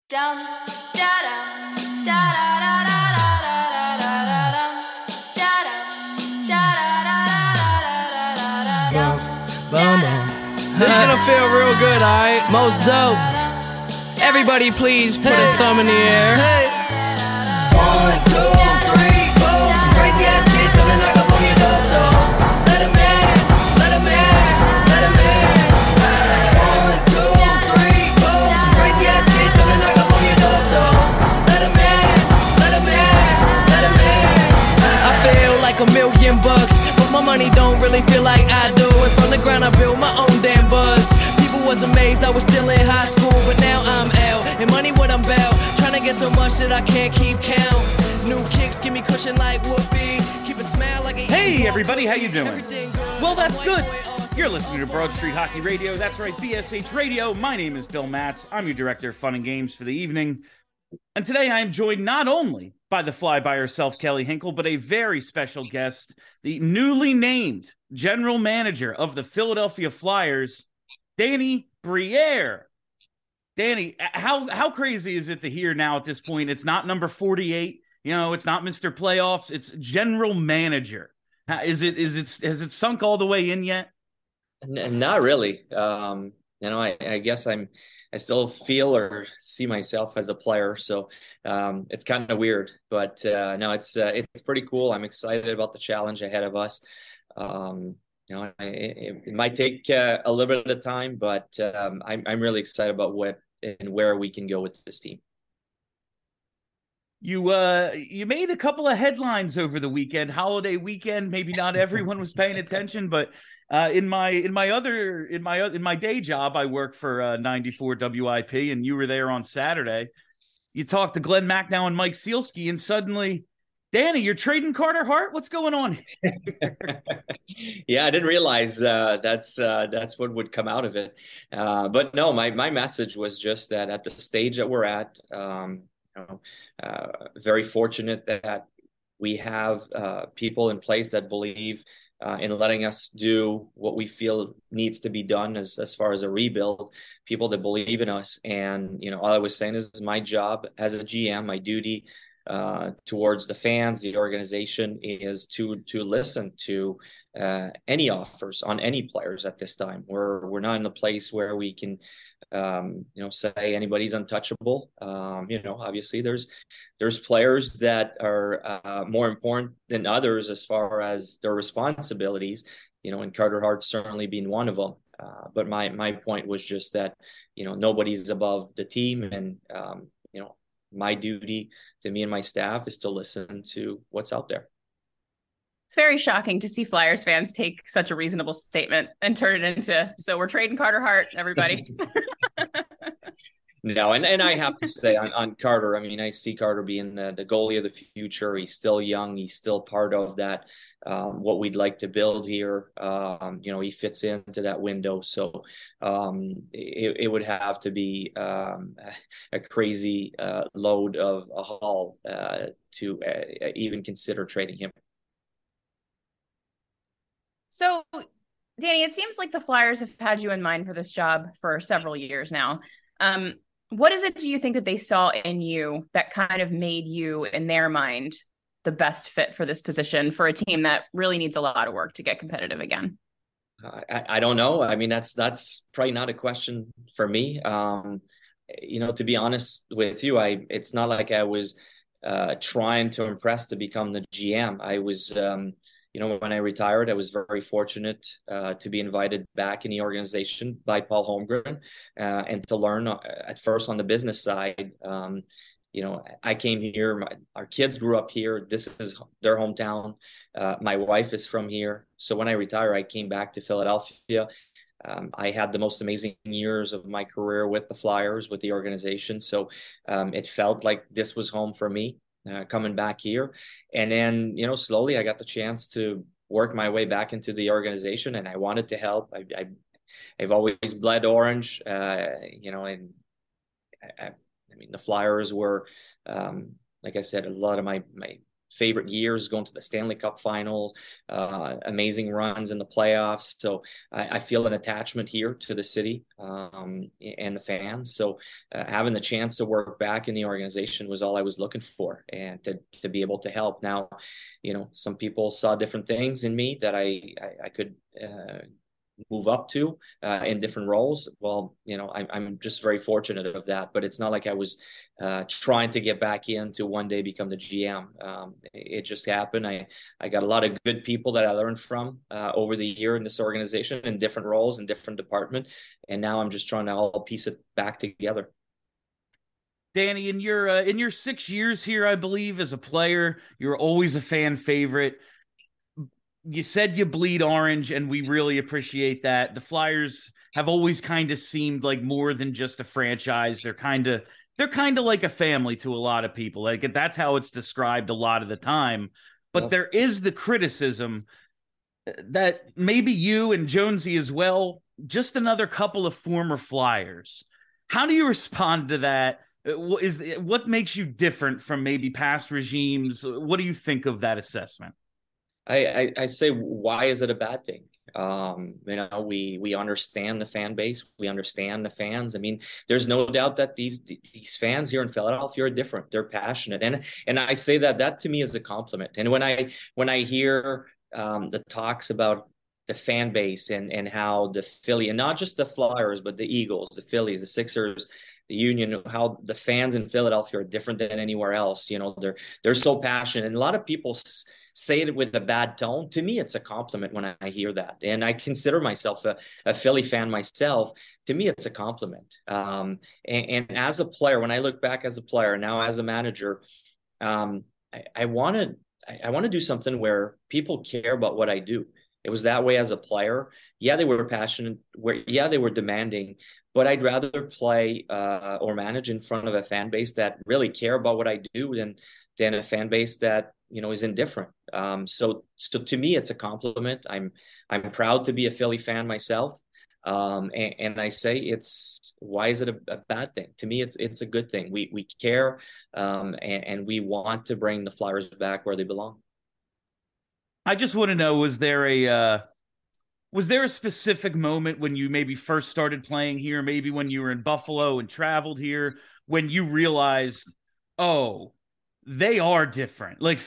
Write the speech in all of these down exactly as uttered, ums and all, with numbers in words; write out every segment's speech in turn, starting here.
Dum da dum da da da da da da da da dum da dum da da da da da da dum. Boom, boom. This is gonna feel real good, alright? Most dope. Everybody please put a thumb in the air. One, two, three, four. Some crazy ass kids coming knock up on your door, so let 'em in, let 'em in, let 'em in. One, two, three, four. Some crazy ass kids coming knock up on your door, so let 'em in, let 'em in, let 'em in. I feel like a million bucks, but my money don't really feel like I do. And from the ground I built my own damn buzz. People was amazed I was still in high school, but now I'm out. And money what I'm about, trying to get so much that I can't keep count. New kicks give me cushion like whoopee. Keep a smile like a Hey everybody, how you doing? Everything good. Well, that's good. Awesome. You're listening to Broad Street Hockey Radio. That's right, B S H Radio. My name is Bill Matz. I'm your director of fun and games for the evening. And today I am joined not only by the fly by herself, Kelly Hinkle, but a very special guest, the newly named general manager of the Philadelphia Flyers, Danny Briere. Danny, how how crazy is it to hear now at this point? It's not number forty-eight. You know, it's not Mister Playoffs. It's general manager. How- Is it is it has it sunk all the way in yet? N- Not really. Um, you know, I, I guess I'm, I still feel or see myself as a player, so um, it's kind of weird. But uh, no, it's uh, it's pretty cool. I'm excited about the challenge ahead of us. Um, you know, I, it, it might take uh, a little bit of time, but um, I'm I'm really excited about what and where we can go with this team. You uh you made a couple of headlines over the weekend, holiday weekend. Maybe not everyone was paying attention, but uh, in my in my other in my in my day job, I work for uh, ninety-four W I P, and you were there on Saturday. You talked to Glenn Macnow and Mike Sealski, and suddenly, Danny, you're trading Carter Hart. What's going on? Yeah, I didn't realize uh, that's uh, that's what would come out of it. Uh, but no, my my message was just that at the stage that we're at, um, you know, uh, very fortunate that we have uh, people in place that believe uh, in letting us do what we feel needs to be done as as far as a rebuild. People that believe in us, and you know, all I was saying is my job as a G M, my duty uh, towards the fans, the organization, is to to listen to uh, any offers on any players at this time. We're we're not in a place where we can, um, you know, say anybody's untouchable. Um, you know, obviously there's there's players that are uh, more important than others as far as their responsibilities. You know, and Carter Hart certainly being one of them. Uh, but my my point was just that, you know, nobody's above the team, and um, you know, my duty to me and my staff is to listen to what's out there. It's very shocking to see Flyers fans take such a reasonable statement and turn it into, so we're trading Carter Hart, everybody. No, and, and I have to say on, on Carter, I mean, I see Carter being the, the goalie of the future. He's still young. He's still part of that, um, what we'd like to build here. Um, you know, he fits into that window. So um, it, it would have to be um, a crazy uh, load of a haul uh, to uh, even consider trading him. So, Danny, it seems like the Flyers have had you in mind for this job for several years now. Um, what is it do you think that they saw in you that kind of made you, in their mind, the best fit for this position for a team that really needs a lot of work to get competitive again? I, I don't know. I mean, that's that's probably not a question for me. Um, you know, to be honest with you, I it's not like I was uh, trying to impress to become the G M. I was, um, you know, when I retired, I was very fortunate uh, to be invited back in the organization by Paul Holmgren uh, and to learn uh, at first on the business side. Um, you know, I came here, my, our kids grew up here. This is their hometown. Uh, my wife is from here. So when I retired, I came back to Philadelphia. Um, I had the most amazing years of my career with the Flyers, with the organization. So um, it felt like this was home for me. Uh, coming back here, and then you know slowly I got the chance to work my way back into the organization, and I wanted to help. I, I I've always bled orange, uh, you know, and I, I mean the Flyers were, um, like I said, a lot of my my favorite years, going to the Stanley Cup finals, uh, amazing runs in the playoffs. So I, I feel an attachment here to the city um, and the fans. So uh, having the chance to work back in the organization was all I was looking for, and to, to be able to help. Now, you know, some people saw different things in me that I, I, I could uh, move up to uh, in different roles. Well, you know, I, I'm just very fortunate of that, but it's not like I was uh, trying to get back in to one day become the G M. Um, it just happened. I, I got a lot of good people that I learned from uh, over the year in this organization in different roles in different department. And now I'm just trying to all piece it back together. Danny, in your uh, in your six years here, I believe, as a player, you're always a fan favorite. You said you bleed orange, and we really appreciate that. The Flyers have always kind of seemed like more than just a franchise. They're kind of they're kind of like a family to a lot of people. Like that's how it's described a lot of the time. But Yep. there is the criticism that maybe you and Jonesy as well, just another couple of former Flyers. How do you respond to that? What is what makes you different from maybe past regimes? What do you think of that assessment? I, I, I say, why is it a bad thing? Um, you know, we we understand the fan base, we understand the fans. I mean, there's no doubt that these these fans here in Philadelphia are different. They're passionate, and and I say that that to me is a compliment. And when I when I hear um, the talks about the fan base and and how the Philly, and not just the Flyers, but the Eagles, the Phillies, the Sixers, the Union, how the fans in Philadelphia are different than anywhere else. You know, they're they're so passionate, and a lot of people s- say it with a bad tone. To me, it's a compliment when I hear that, and I consider myself a, a Philly fan myself. To me, it's a compliment. Um, and, and as a player, when I look back as a player now as a manager, um, I, I want to I, I want to do something where people care about what I do. It was that way as a player. Yeah, they were passionate. Where yeah, they were demanding, but I'd rather play uh, or manage in front of a fan base that really care about what I do than than a fan base that, you know, is indifferent. Um, so so to me, it's a compliment. I'm I'm proud to be a Philly fan myself. Um, and, and I say it's why is it a, a bad thing? To me, it's it's a good thing. We we care um, and, and we want to bring the Flyers back where they belong. I just want to know, was there a uh, was there a specific moment when you maybe first started playing here, maybe when you were in Buffalo and traveled here, when you realized, oh, they are different? Like,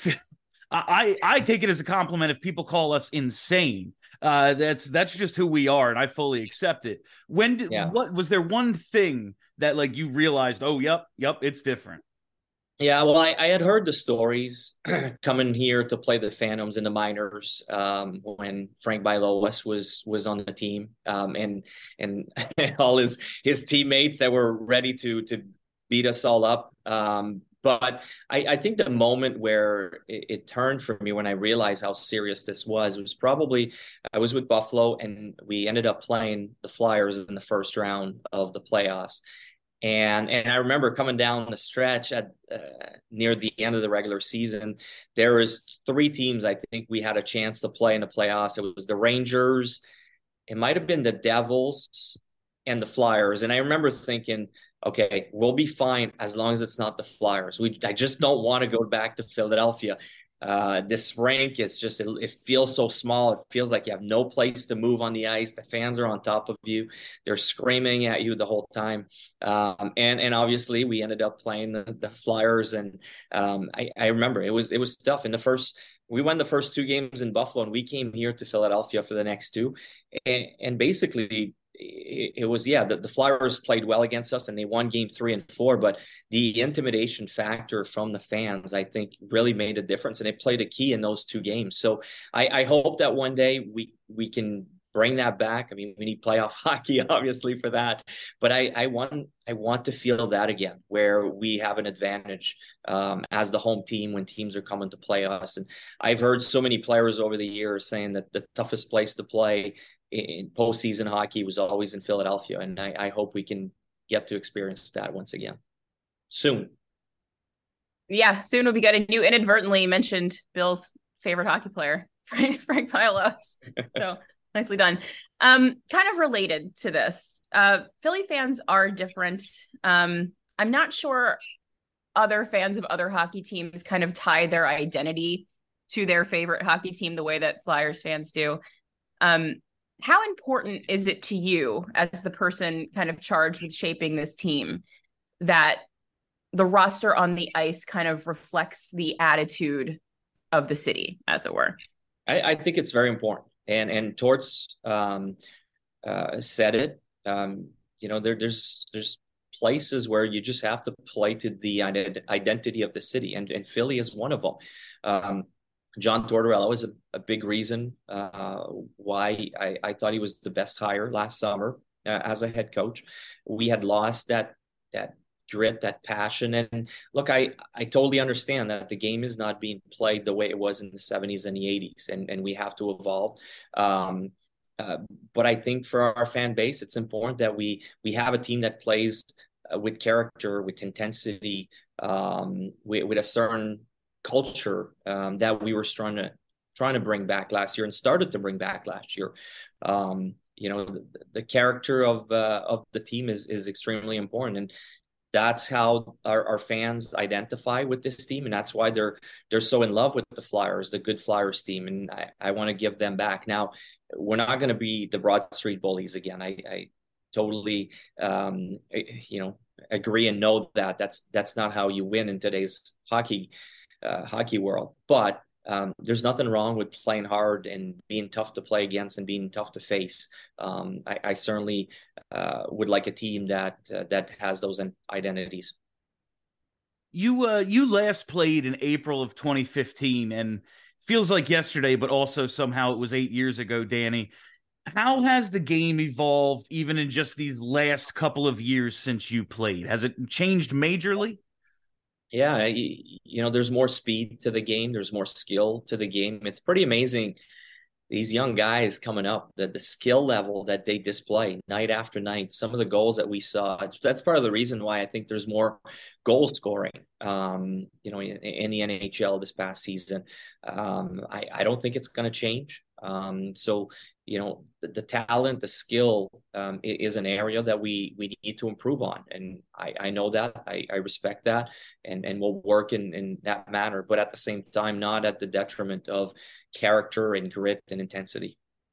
I I take it as a compliment if people call us insane. Uh, that's that's just who we are, and I fully accept it. When did Yeah. what was there one thing that like you realized? Oh, yep, yep, it's different. Yeah, well, I, I had heard the stories coming here to play the Phantoms in the minors um, when Frank Bialowas was was on the team, um, and and all his his teammates that were ready to to beat us all up. Um, but I, I think the moment where it, it turned for me when I realized how serious this was was probably I was with Buffalo and we ended up playing the Flyers in the first round of the playoffs. And and I remember coming down the stretch at uh, near the end of the regular season, there was three teams I think we had a chance to play in the playoffs. It was the Rangers, it might have been the Devils, and the Flyers. And I remember thinking, okay, we'll be fine as long as it's not the Flyers. We I just don't want to go back to Philadelphia. Uh, this rink is just, it, it feels so small. It feels like you have no place to move on the ice. The fans are on top of you. They're screaming at you the whole time. Um, and, and obviously we ended up playing the, the Flyers. And um, I, I remember it was, it was tough in the first, we won the first two games in Buffalo and we came here to Philadelphia for the next two. And, and basically it, it was, yeah, the, the Flyers played well against us and they won game three and four, but the intimidation factor from the fans, I think, really made a difference, and it played a key in those two games. So I, I hope that one day we we can bring that back. I mean, we need playoff hockey, obviously, for that. But I, I want I want to feel that again, where we have an advantage um, as the home team when teams are coming to play us. And I've heard so many players over the years saying that the toughest place to play in postseason hockey was always in Philadelphia, and I, I hope we can get to experience that once again. Soon. Yeah, soon will be good. And you inadvertently mentioned Bill's favorite hockey player, Frank, Frank Bialowas. So nicely done. Um, kind of related to this, uh, Philly fans are different. Um, I'm not sure other fans of other hockey teams kind of tie their identity to their favorite hockey team the way that Flyers fans do. Um, how important is it to you as the person kind of charged with shaping this team that the roster on the ice kind of reflects the attitude of the city, as it were? I, I think it's very important. And and Torts um, uh, said it. Um, you know, there, there's there's places where you just have to play to the identity of the city, and, and Philly is one of them. Um, John Tortorella was a, a big reason uh, why I, I thought he was the best hire last summer uh, as a head coach. We had lost that that grit, that passion. And look, I, I totally understand that the game is not being played the way it was in the seventies and the eighties, and, and we have to evolve. Um, uh, but I think for our fan base, it's important that we we have a team that plays uh, with character, with intensity, um, with, with a certain culture um, that we were trying to trying to bring back last year and started to bring back last year. Um, you know, the, the character of uh, of the team is is extremely important, and that's how our, our fans identify with this team, and that's why they're they're so in love with the Flyers, the good Flyers team, and I, I want to give them back. Now, we're not going to be the Broad Street Bullies again. I, I totally, um, you know, agree and know that that's that's not how you win in today's hockey uh, hockey world. But Um, there's nothing wrong with playing hard and being tough to play against and being tough to face. Um, I, I certainly uh, would like a team that uh, that has those identities. You uh, you last played in April of twenty fifteen, and feels like yesterday, but also somehow it was eight years ago, Danny. How has the game evolved even in just these last couple of years since you played? Has it changed majorly? Yeah, you, you know, there's more speed to the game. There's more skill to the game. It's pretty amazing. These young guys coming up, the, the skill level that they display night after night, some of the goals that we saw, that's part of the reason why I think there's more goal scoring, um, you know, in, in the N H L this past season. Um, I, I don't think it's going to change. Um, so, you know, the, the talent, the skill um, is an area that we we need to improve on. And I, I know that, I, I respect that, and, and we'll work in, in that manner, but at the same time, not at the detriment of character and grit and intensity.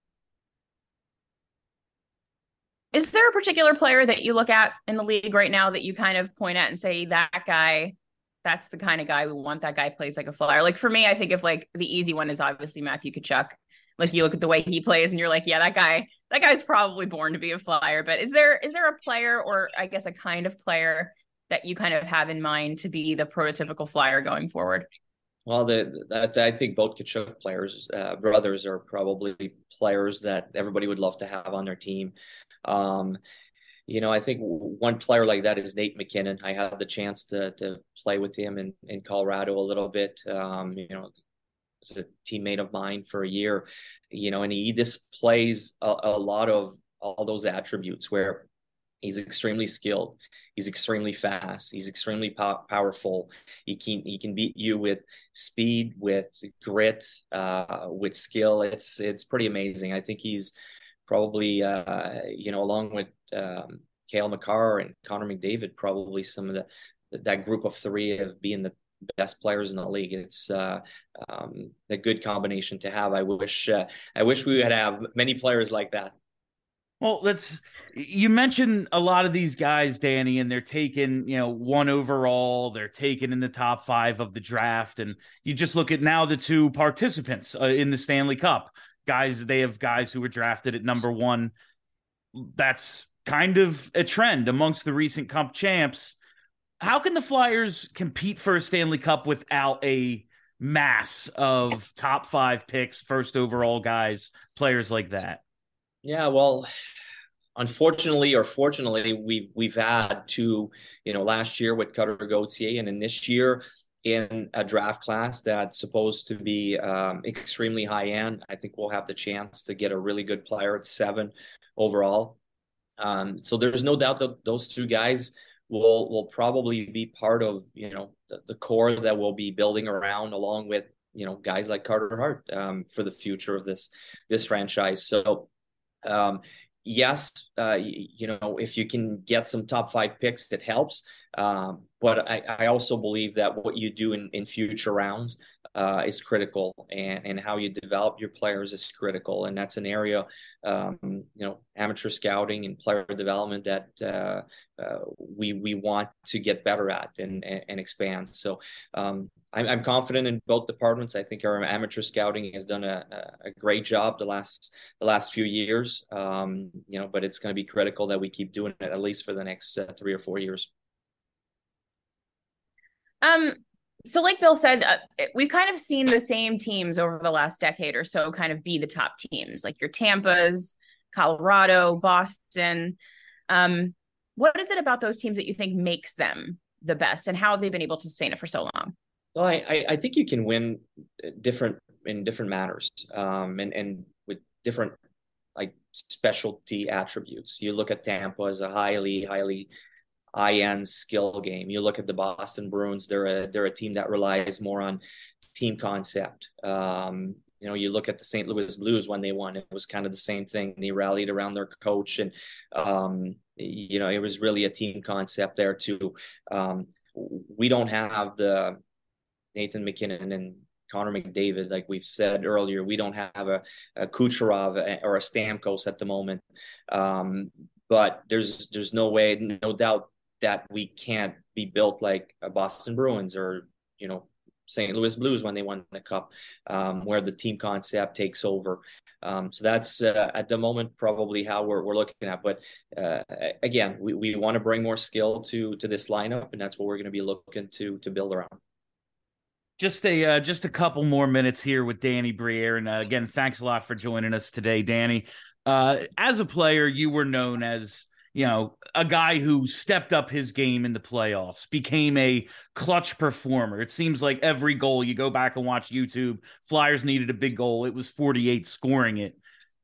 Is there a particular player that you look at in the league right now that you kind of point at and say, that guy, that's the kind of guy we want, that guy plays like a Flyer? Like for me, I think of like the easy one is obviously Matthew Tkachuk. Like you look at the way he plays and you're like, yeah, that guy, that guy's probably born to be a Flyer. But is there, is there a player, or I guess a kind of player, that you kind of have in mind to be the prototypical Flyer going forward? Well, the, the I think both Tkachuk players, uh, brothers, are probably players that everybody would love to have on their team. Um, you know, I think one player like that is Nate MacKinnon. I had the chance to to play with him in, in Colorado a little bit. Um, you know, was a teammate of mine for a year, you know, and he displays a, a lot of all those attributes where he's extremely skilled, he's extremely fast, he's extremely pow- powerful. He can he can beat you with speed, with grit, uh, with skill. It's it's pretty amazing. I think he's probably uh, you know, along with um, Cale Makar and Connor McDavid, probably some of the that group of three of being the best players in the league. It's uh, um, a good combination to have. I wish uh, I wish we would have many players like that. Well, that's, you mentioned a lot of these guys, Danny, and they're taken, you know, one overall, they're taken in the top five of the draft. And you just look at now the two participants uh, in the Stanley Cup guys, they have guys who were drafted at number one. That's kind of a trend amongst the recent Cup champs. How can the Flyers compete for a Stanley Cup without a mass of top five picks, first overall guys, players like that? Yeah, well, unfortunately or fortunately, we've we've had two, you know, last year with Cutter Gauthier, and in this year in a draft class that's supposed to be um, extremely high end. I think we'll have the chance to get a really good player at seven overall. Um, so there's no doubt that those two guys will will probably be part of, you know, the, the core that we'll be building around, along with, you know, guys like Carter Hart um, for the future of this this franchise. So. Um, yes, uh, you, you know, if you can get some top five picks, it helps. Um, but I, I also believe that what you do in, in future rounds uh, is critical, and, and how you develop your players is critical. And that's an area, um, you know, amateur scouting and player development that uh, uh, we we want to get better at and, and, and expand. So um, I'm, I'm confident in both departments. I think our amateur scouting has done a, a great job the last the last few years, um, you know, but it's going to be critical that we keep doing it at least for the next uh, three or four years. Um, so like Bill said, uh, we've kind of seen the same teams over the last decade or so kind of be the top teams, like your Tampas, Colorado, Boston. Um, what is it about those teams that you think makes them the best, and how have they been able to sustain it for so long? Well, I, I think you can win different in different manners, um, and, and with different like specialty attributes. You look at Tampa as a highly, highly high-end skill game. You look at the Boston Bruins; they're a they're a team that relies more on team concept. Um, you know, you look at the Saint Louis Blues when they won; it was kind of the same thing. They rallied around their coach, and um, you know, it was really a team concept there too. Um, we don't have the Nathan MacKinnon and Connor McDavid, like we've said earlier. We don't have a, a Kucherov or a Stamkos at the moment, um, but there's there's no way, no doubt, that we can't be built like a Boston Bruins or, you know, Saint Louis Blues when they won the Cup, um, where the team concept takes over. Um, so that's uh, at the moment probably how we're we're looking at. But uh, again, we, we want to bring more skill to to this lineup, and that's what we're going to be looking to to build around. Just a uh, just a couple more minutes here with Danny Briere, and uh, again, thanks a lot for joining us today, Danny. Uh, as a player, you were known as, you know, a guy who stepped up his game in the playoffs, became a clutch performer. It seems like every goal, you go back and watch YouTube, Flyers needed a big goal, it was forty-eight scoring it.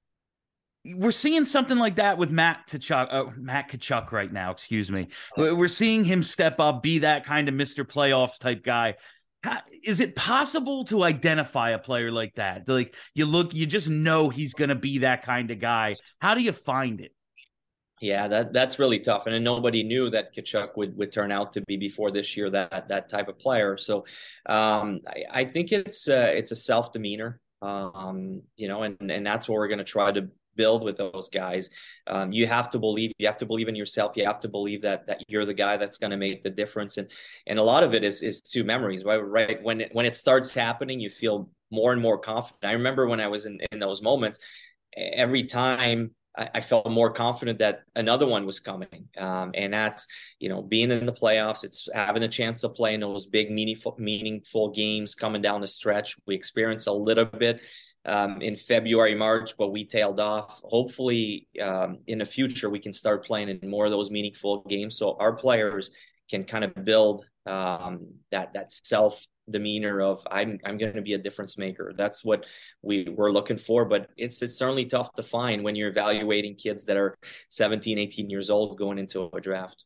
We're seeing something like that with Matt Tkachuk, uh, Matt Tkachuk right now, excuse me. We're seeing him step up, be that kind of Mister Playoffs type guy. How, is it possible to identify a player like that? Like, you look, you just know he's going to be that kind of guy. How do you find it? Yeah, that that's really tough, and nobody knew that Tkachuk would would turn out to be before this year that that type of player. So, um, I, I think it's uh, it's a self demeanor, um, you know, and and that's what we're going to try to build with those guys. Um, you have to believe, you have to believe in yourself. You have to believe that that you're the guy that's going to make the difference. And and a lot of it is is two memories, right? Right when it, when it starts happening, you feel more and more confident. I remember when I was in in those moments, every time I felt more confident that another one was coming. Um, and that's, you know, being in the playoffs, it's having a chance to play in those big, meaningful, meaningful games coming down the stretch. We experienced a little bit um, in February, March, but we tailed off. Hopefully um, in the future, we can start playing in more of those meaningful games, so our players can kind of build um, that, that self demeanor of I'm I'm going to be a difference maker. That's what we we're looking for, but it's it's certainly tough to find when you're evaluating kids that are seventeen, eighteen years old going into a draft.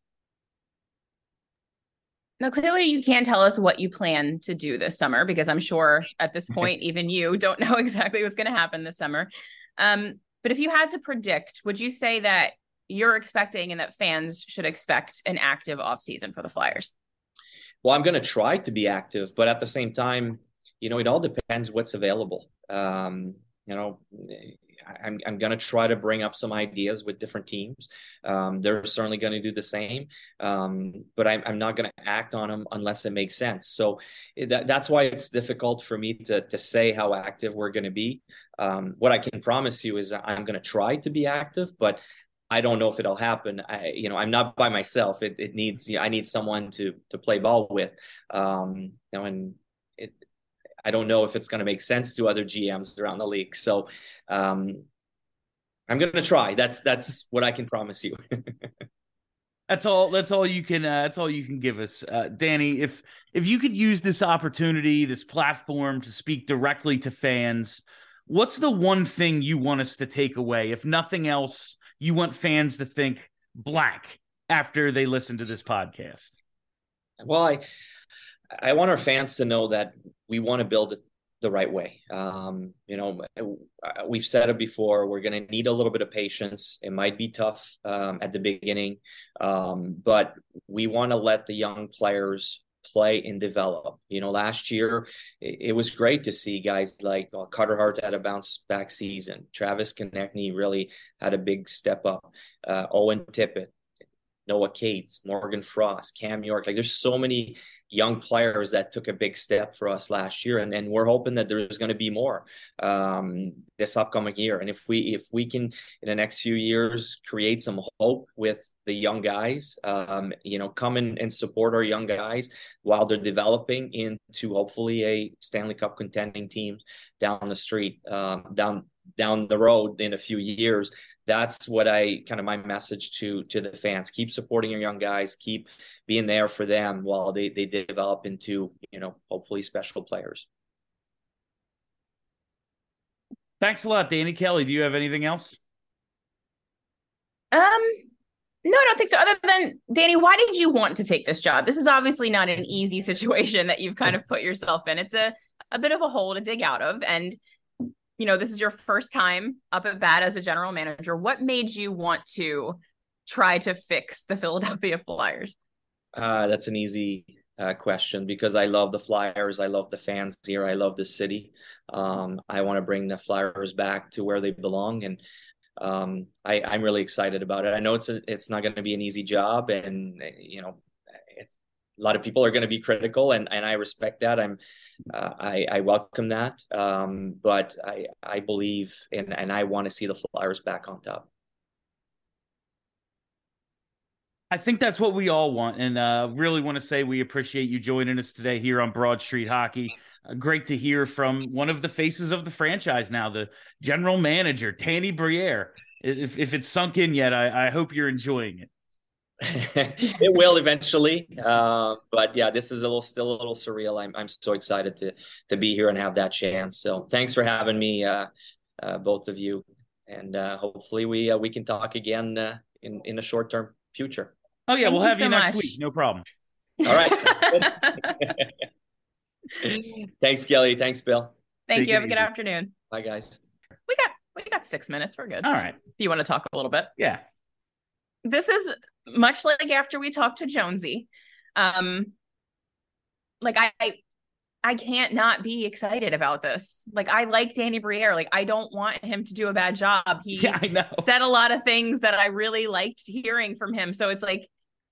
Now, clearly you can tell us what you plan to do this summer, because I'm sure at this point, even you don't know exactly what's going to happen this summer. Um, but if you had to predict, would you say that you're expecting and that fans should expect an active offseason for the Flyers? Well, I'm going to try to be active, but at the same time, you know, it all depends what's available. Um, you know, I'm, I'm going to try to bring up some ideas with different teams. Um, they're certainly going to do the same, um, but I'm, I'm not going to act on them unless it makes sense. So that, that's why it's difficult for me to, to say how active we're going to be. Um, what I can promise you is I'm going to try to be active, but I don't know if it'll happen. I, you know, I'm not by myself. It, it needs, you know, I need someone to, to play ball with. Um, you know, and it, I don't know if it's going to make sense to other G Ms around the league. So, um, I'm going to try. That's, that's what I can promise you. That's all, that's all you can, uh, that's all you can give us. Uh, Danny, if, if you could use this opportunity, this platform to speak directly to fans, what's the one thing you want us to take away? If nothing else, you want fans to think blank after they listen to this podcast? Well, I, I want our fans to know that we want to build a, the right way. Um, you know, we've said it before, we're going to need a little bit of patience. It might be tough um, at the beginning, um, but we want to let the young players play and develop. You know, last year, it, it was great to see guys like uh, Carter Hart had a bounce back season. Travis Konechny really had a big step up. Uh, Owen Tippett, Noah Cates, Morgan Frost, Cam York. Like there's so many young players that took a big step for us last year, and, and we're hoping that there's going to be more um, this upcoming year. And if we if we can in the next few years create some hope with the young guys, um, you know, come in and support our young guys while they're developing into hopefully a Stanley Cup contending team down the street, um, down down the road in a few years. That's what I kind of my message to to the fans. Keep supporting your young guys. Keep being there for them while they, they develop into, you know, hopefully special players. Thanks a lot, Danny. Kelly, do you have anything else? Um, no, I don't think so. Other than, Danny, why did you want to take this job? This is obviously not an easy situation that you've kind of put yourself in. It's a, a bit of a hole to dig out of. And you know, this is your first time up at bat as a general manager. What made you want to try to fix the Philadelphia Flyers? Uh, that's an easy uh, question because I love the Flyers. I love the fans here. I love the city. Um, I want to bring the Flyers back to where they belong. And um, I, I'm really excited about it. I know it's a, it's not going to be an easy job. And, you know, it's, a lot of people are going to be critical, and, and I respect that. I'm Uh, I, I welcome that, um, but I I believe in, and I want to see the Flyers back on top. I think that's what we all want, and uh, really want to say we appreciate you joining us today here on Broad Street Hockey. Uh, great to hear from one of the faces of the franchise now, the general manager, Danny Briere. If if it's sunk in yet, I, I hope you're enjoying it. It will eventually, uh, but yeah, this is a little still a little surreal. I'm I'm so excited to to be here and have that chance. So thanks for having me, uh, uh, both of you, and uh, hopefully we uh, we can talk again uh, in in a short term future. Oh yeah, Thank we'll you have so you next much. week. No problem. All right. Thanks, Kelly. Thanks, Bill. Thank Take you. it Have a good easy. afternoon. Bye, guys. We got we got six minutes. We're good. All right. If you want to talk a little bit. Yeah. This is much like after we talked to Jonesy. Um, like I, I I can't not be excited about this. Like I like Danny Briere. Like I don't want him to do a bad job. He Yeah, I know. said a lot of things that I really liked hearing from him. So it's like,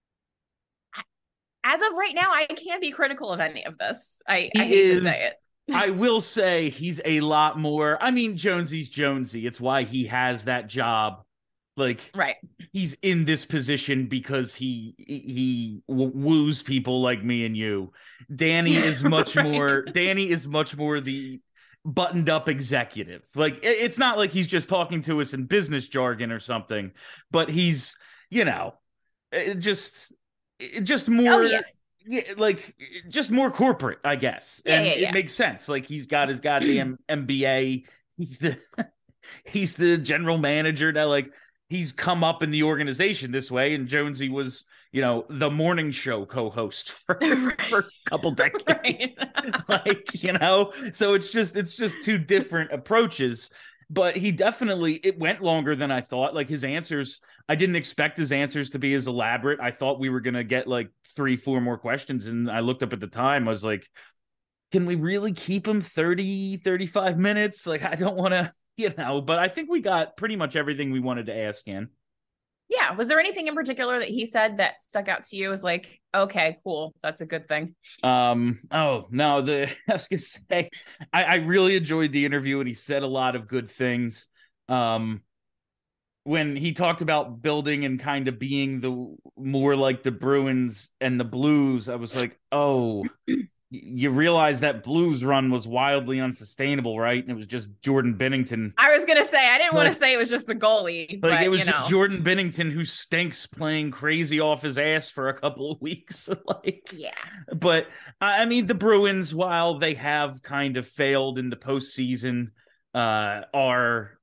as of right now, I can't be critical of any of this. I, I He hate is- to say it. I will say he's a lot more. I mean, Jonesy's Jonesy. It's why he has that job. Like, Right. he's in this position because he he w- woos people like me and you. Danny is much Right. more. Danny is much more the buttoned up executive. Like, it- it's not like he's just talking to us in business jargon or something, but he's, you know, it just it just more. Oh, yeah. Yeah, like just more corporate, I guess. Yeah, and yeah, yeah. it makes sense. Like he's got his goddamn M B A. He's the he's the general manager now. Like he's come up in the organization this way. And Jonesy was, you know, the morning show co-host for, Right. for a couple decades. Right. Like, you know, so it's just it's just two different approaches. But he definitely, it went longer than I thought. Like his answers, I didn't expect his answers to be as elaborate. I thought we were going to get like three, four more questions. And I looked up at the time, I was like, can we really keep him thirty, thirty-five minutes? Like, I don't want to, you know, but I think we got pretty much everything we wanted to ask in. Yeah. Was there anything in particular that he said that stuck out to you as like, okay, cool. That's a good thing. Um, oh no, the I was gonna say I, I really enjoyed the interview and he said a lot of good things. Um when he talked about building and kind of being the more like the Bruins and the Blues, I was like, oh, you realize that Blues run was wildly unsustainable, right? And it was just Jordan Binnington. I was going to say, I didn't want Like- to say it was just the goalie, Like but it was you know. just Jordan Binnington who stinks playing crazy off his ass for a couple of weeks. Like, Yeah. but I I mean, the Bruins, while they have kind of failed in the postseason, uh, are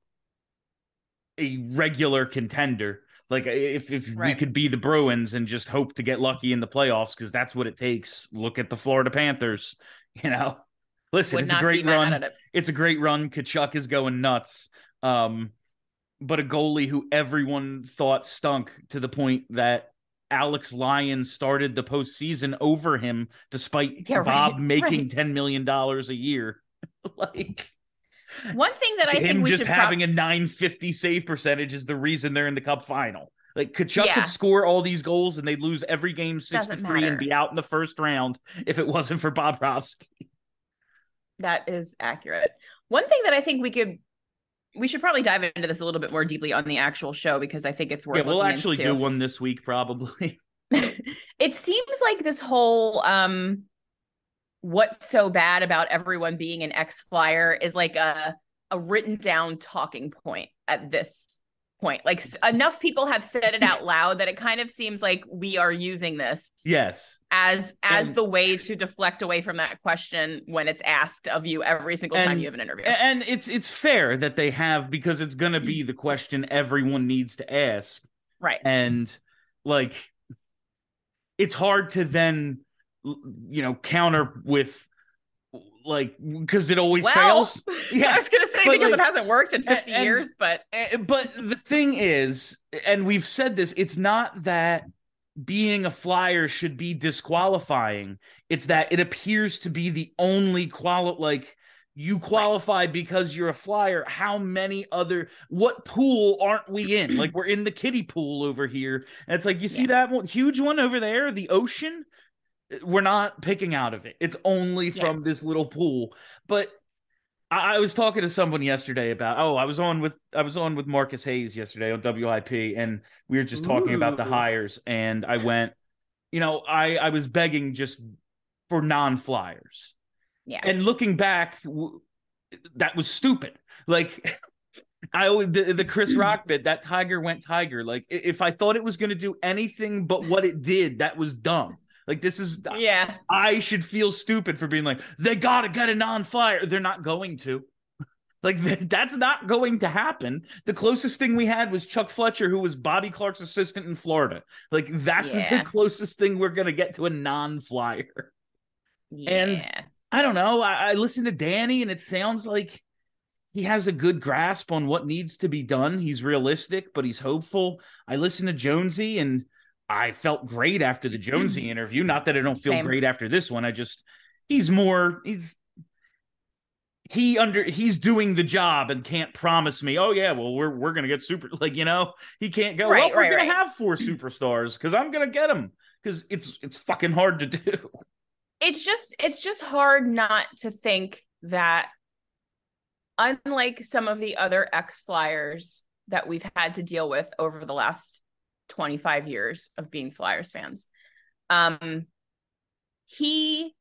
a regular contender. Like if if we Right. could be the Bruins and just hope to get lucky in the playoffs, because that's what it takes. Look at the Florida Panthers, you know. Listen, Would it's a not be great mad run. at it. It's a great run. Kachuk is going nuts. Um, but a goalie who everyone thought stunk to the point that Alex Lyon started the postseason over him, despite Yeah, right, Bob making right. ten million dollars a year. Like, One thing that I him think we just should having prob- a nine fifty save percentage is the reason they're in the Cup final. Like, Kachuk Yeah. could score all these goals and they'd lose every game six Doesn't to three and matter. be out in the first round if it wasn't for Bobrovsky. That is accurate. One thing that I think we could, we should probably dive into this a little bit more deeply on the actual show, because I think it's worth. Yeah, we'll looking actually into. do one this week probably. It seems like this whole um, what's so bad about everyone being an ex-Flyer is like a a written down talking point at this point. Like enough people have said it out loud that it kind of seems like we are using this Yes. as as And- the way to deflect away from that question when it's asked of you every single time And- you have an interview. And it's it's fair that they have, because it's going to be the question everyone needs to ask. Right. And like, it's hard to then, you know, counter with like, because it always Well, fails. Yeah. I was going to say But, because like, it hasn't worked in fifty and- years, but Eh, But the thing is, and we've said this, it's not that being a Flyer should be disqualifying. It's that it appears to be the only quali like you qualify because you're a Flyer. How many other, what pool aren't we in? Like, we're in the kiddie pool over here. And it's like, you see Yeah. that one, huge one over there, the ocean? We're not picking out of it. It's only Yeah. from this little pool. But I, I was talking to someone yesterday about, oh, I was on with I was on with Marcus Hayes yesterday on W I P, and we were just talking about the Ooh. hires, and I went, you know, I I was begging just for non-Flyers. yeah. And looking back, w- that was stupid. Like, I always, the, the Chris Rock bit, that Tiger went Tiger. Like, i- if I thought it was going to do anything but what it did, that was dumb. Like, this is, yeah. I should feel stupid for being like, they got to get a non-Flyer. They're not going to. Like, th- that's not going to happen. The closest thing we had was Chuck Fletcher, who was Bobby Clark's assistant in Florida. Like, that's Yeah. the closest thing we're going to get to a non-Flyer. Yeah. And I don't know. I, I listened to Danny, and it sounds like he has a good grasp on what needs to be done. He's realistic, but he's hopeful. I listened to Jonesy, and I felt great after the Jonesy interview. Not that I don't feel Same. great after this one. I just, he's more, he's, he under, he's doing the job and can't promise me, oh yeah, well, we're, we're going to get super, like, you know, he can't go, Right, well, we're right, going right. to have four superstars because I'm going to get them, because it's, it's fucking hard to do. It's just it's just hard not to think that, unlike some of the other ex-Flyers that we've had to deal with over the last twenty-five years of being Flyers fans, um, he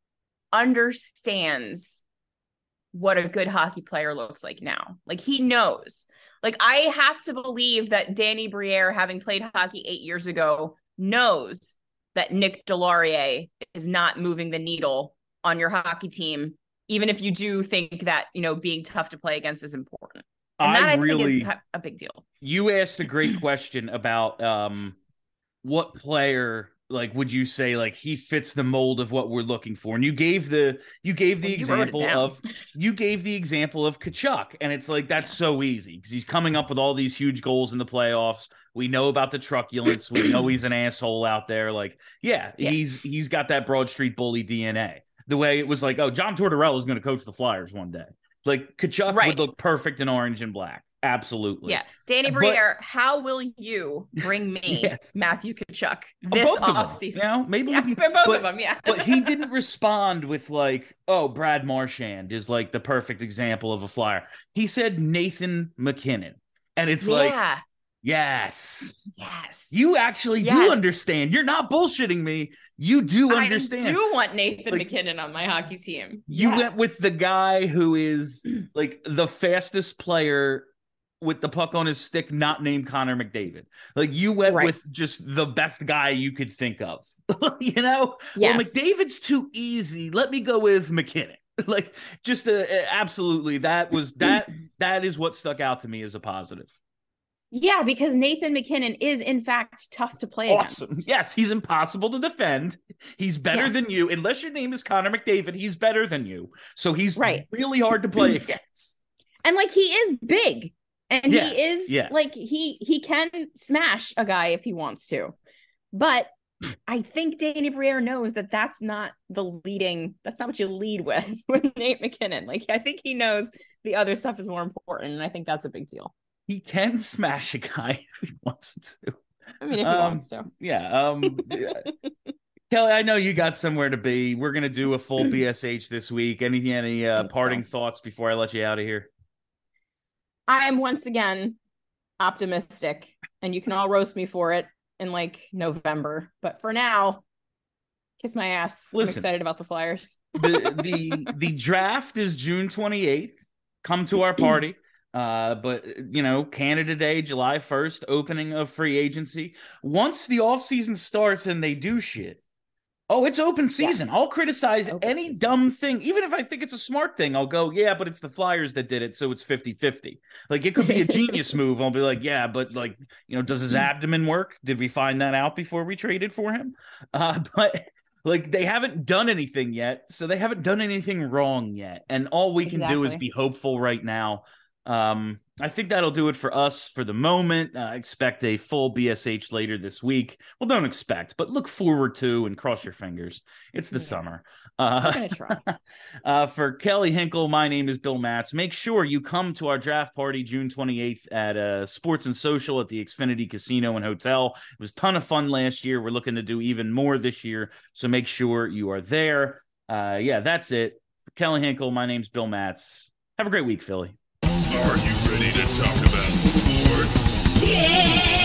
understands what a good hockey player looks like now. Like, he knows. Like, I have to believe that Danny Briere, having played hockey eight years ago, knows that Nick Delorier is not moving the needle on your hockey team, even if you do think that, you know, being tough to play against is important. And that I I really, think is a big deal. you asked a great question about um, what player, like, would you say, like, he fits the mold of what we're looking for? And you gave the, you gave the Well, you wrote it example down. of, you gave the example of Kachuk. And it's like, that's so easy because he's coming up with all these huge goals in the playoffs. We know about the truculence. We know he's an asshole out there. Like, yeah, Yeah. he's, he's got that Broad Street bully D N A. The way it was like, oh, John Tortorella is going to coach the Flyers one day. Like, Kachuk Right. would look perfect in orange and black. Absolutely. Yeah. Danny But- Briere, how will you bring me Yes. Matthew Kachuk Uh, this both of them, offseason? you know, maybe Yeah, we can, both but, of them, yeah. but he didn't respond with like, oh, Brad Marchand is like the perfect example of a Flyer. He said Nathan McKinnon. And it's like, yeah. yes, Yes. you actually Yes. do understand. You're not bullshitting me. You do understand. I do want Nathan Like, McKinnon on my hockey team. You Yes. went with the guy who is like the fastest player with the puck on his stick, not named Connor McDavid. Like, you went Right. with just the best guy you could think of. You know? Yes. Well, McDavid's too easy. Let me go with McKinnon. Like, just uh, absolutely, that was that. That is what stuck out to me as a positive. Yeah, because Nathan MacKinnon is in fact tough to play Awesome. against. Yes, he's impossible to defend. He's better Yes. than you. Unless your name is Connor McDavid, he's better than you. So he's Right. really hard to play against. And like he is big. And Yeah, he is yes. like he he can smash a guy if he wants to. But I think Danny Briere knows that that's not the leading, that's not what you lead with with Nate MacKinnon. Like I think he knows the other stuff is more important, and I think that's a big deal. He can smash a guy if he wants to. I mean, if he Um, wants to. Yeah. Um, yeah. Kelly, I know you got somewhere to be. We're gonna do a full B S H this week. Any any uh, Thanks, parting Phil. thoughts before I let you out of here? I am once again optimistic, and you can all roast me for it in like November. But for now, kiss my ass. Listen. I'm excited about the Flyers. the the the draft is June twenty-eighth. Come to our party. Uh, but you know, Canada Day, July first, opening of free agency. Once the offseason starts and they do shit, oh, it's open season. Yes. I'll criticize Open any season. dumb thing, even if I think it's a smart thing. I'll go, yeah, but it's the Flyers that did it, so it's fifty-fifty. Like, it could be a genius move. I'll be like, yeah, but like, you know, does his abdomen work? Did we find that out before we traded for him? Uh, but like, they haven't done anything yet, so they haven't done anything wrong yet. And all we can do is Exactly. be hopeful right now. Um, I think that'll do it for us for the moment. Uh, expect a full B S H later this week. Well, don't expect, but look forward to and cross your fingers. It's the Yeah. summer. I'm Uh, gonna try. uh, for Kelly Hinkle, my name is Bill Matz. Make sure you come to our draft party June twenty-eighth at uh, Sports and Social at the Xfinity Casino and Hotel. It was a ton of fun last year. We're looking to do even more this year, so make sure you are there. Uh, yeah, that's it. For Kelly Hinkle, my name's Bill Matz. Have a great week, Philly. Are you ready to talk about sports? Yeah!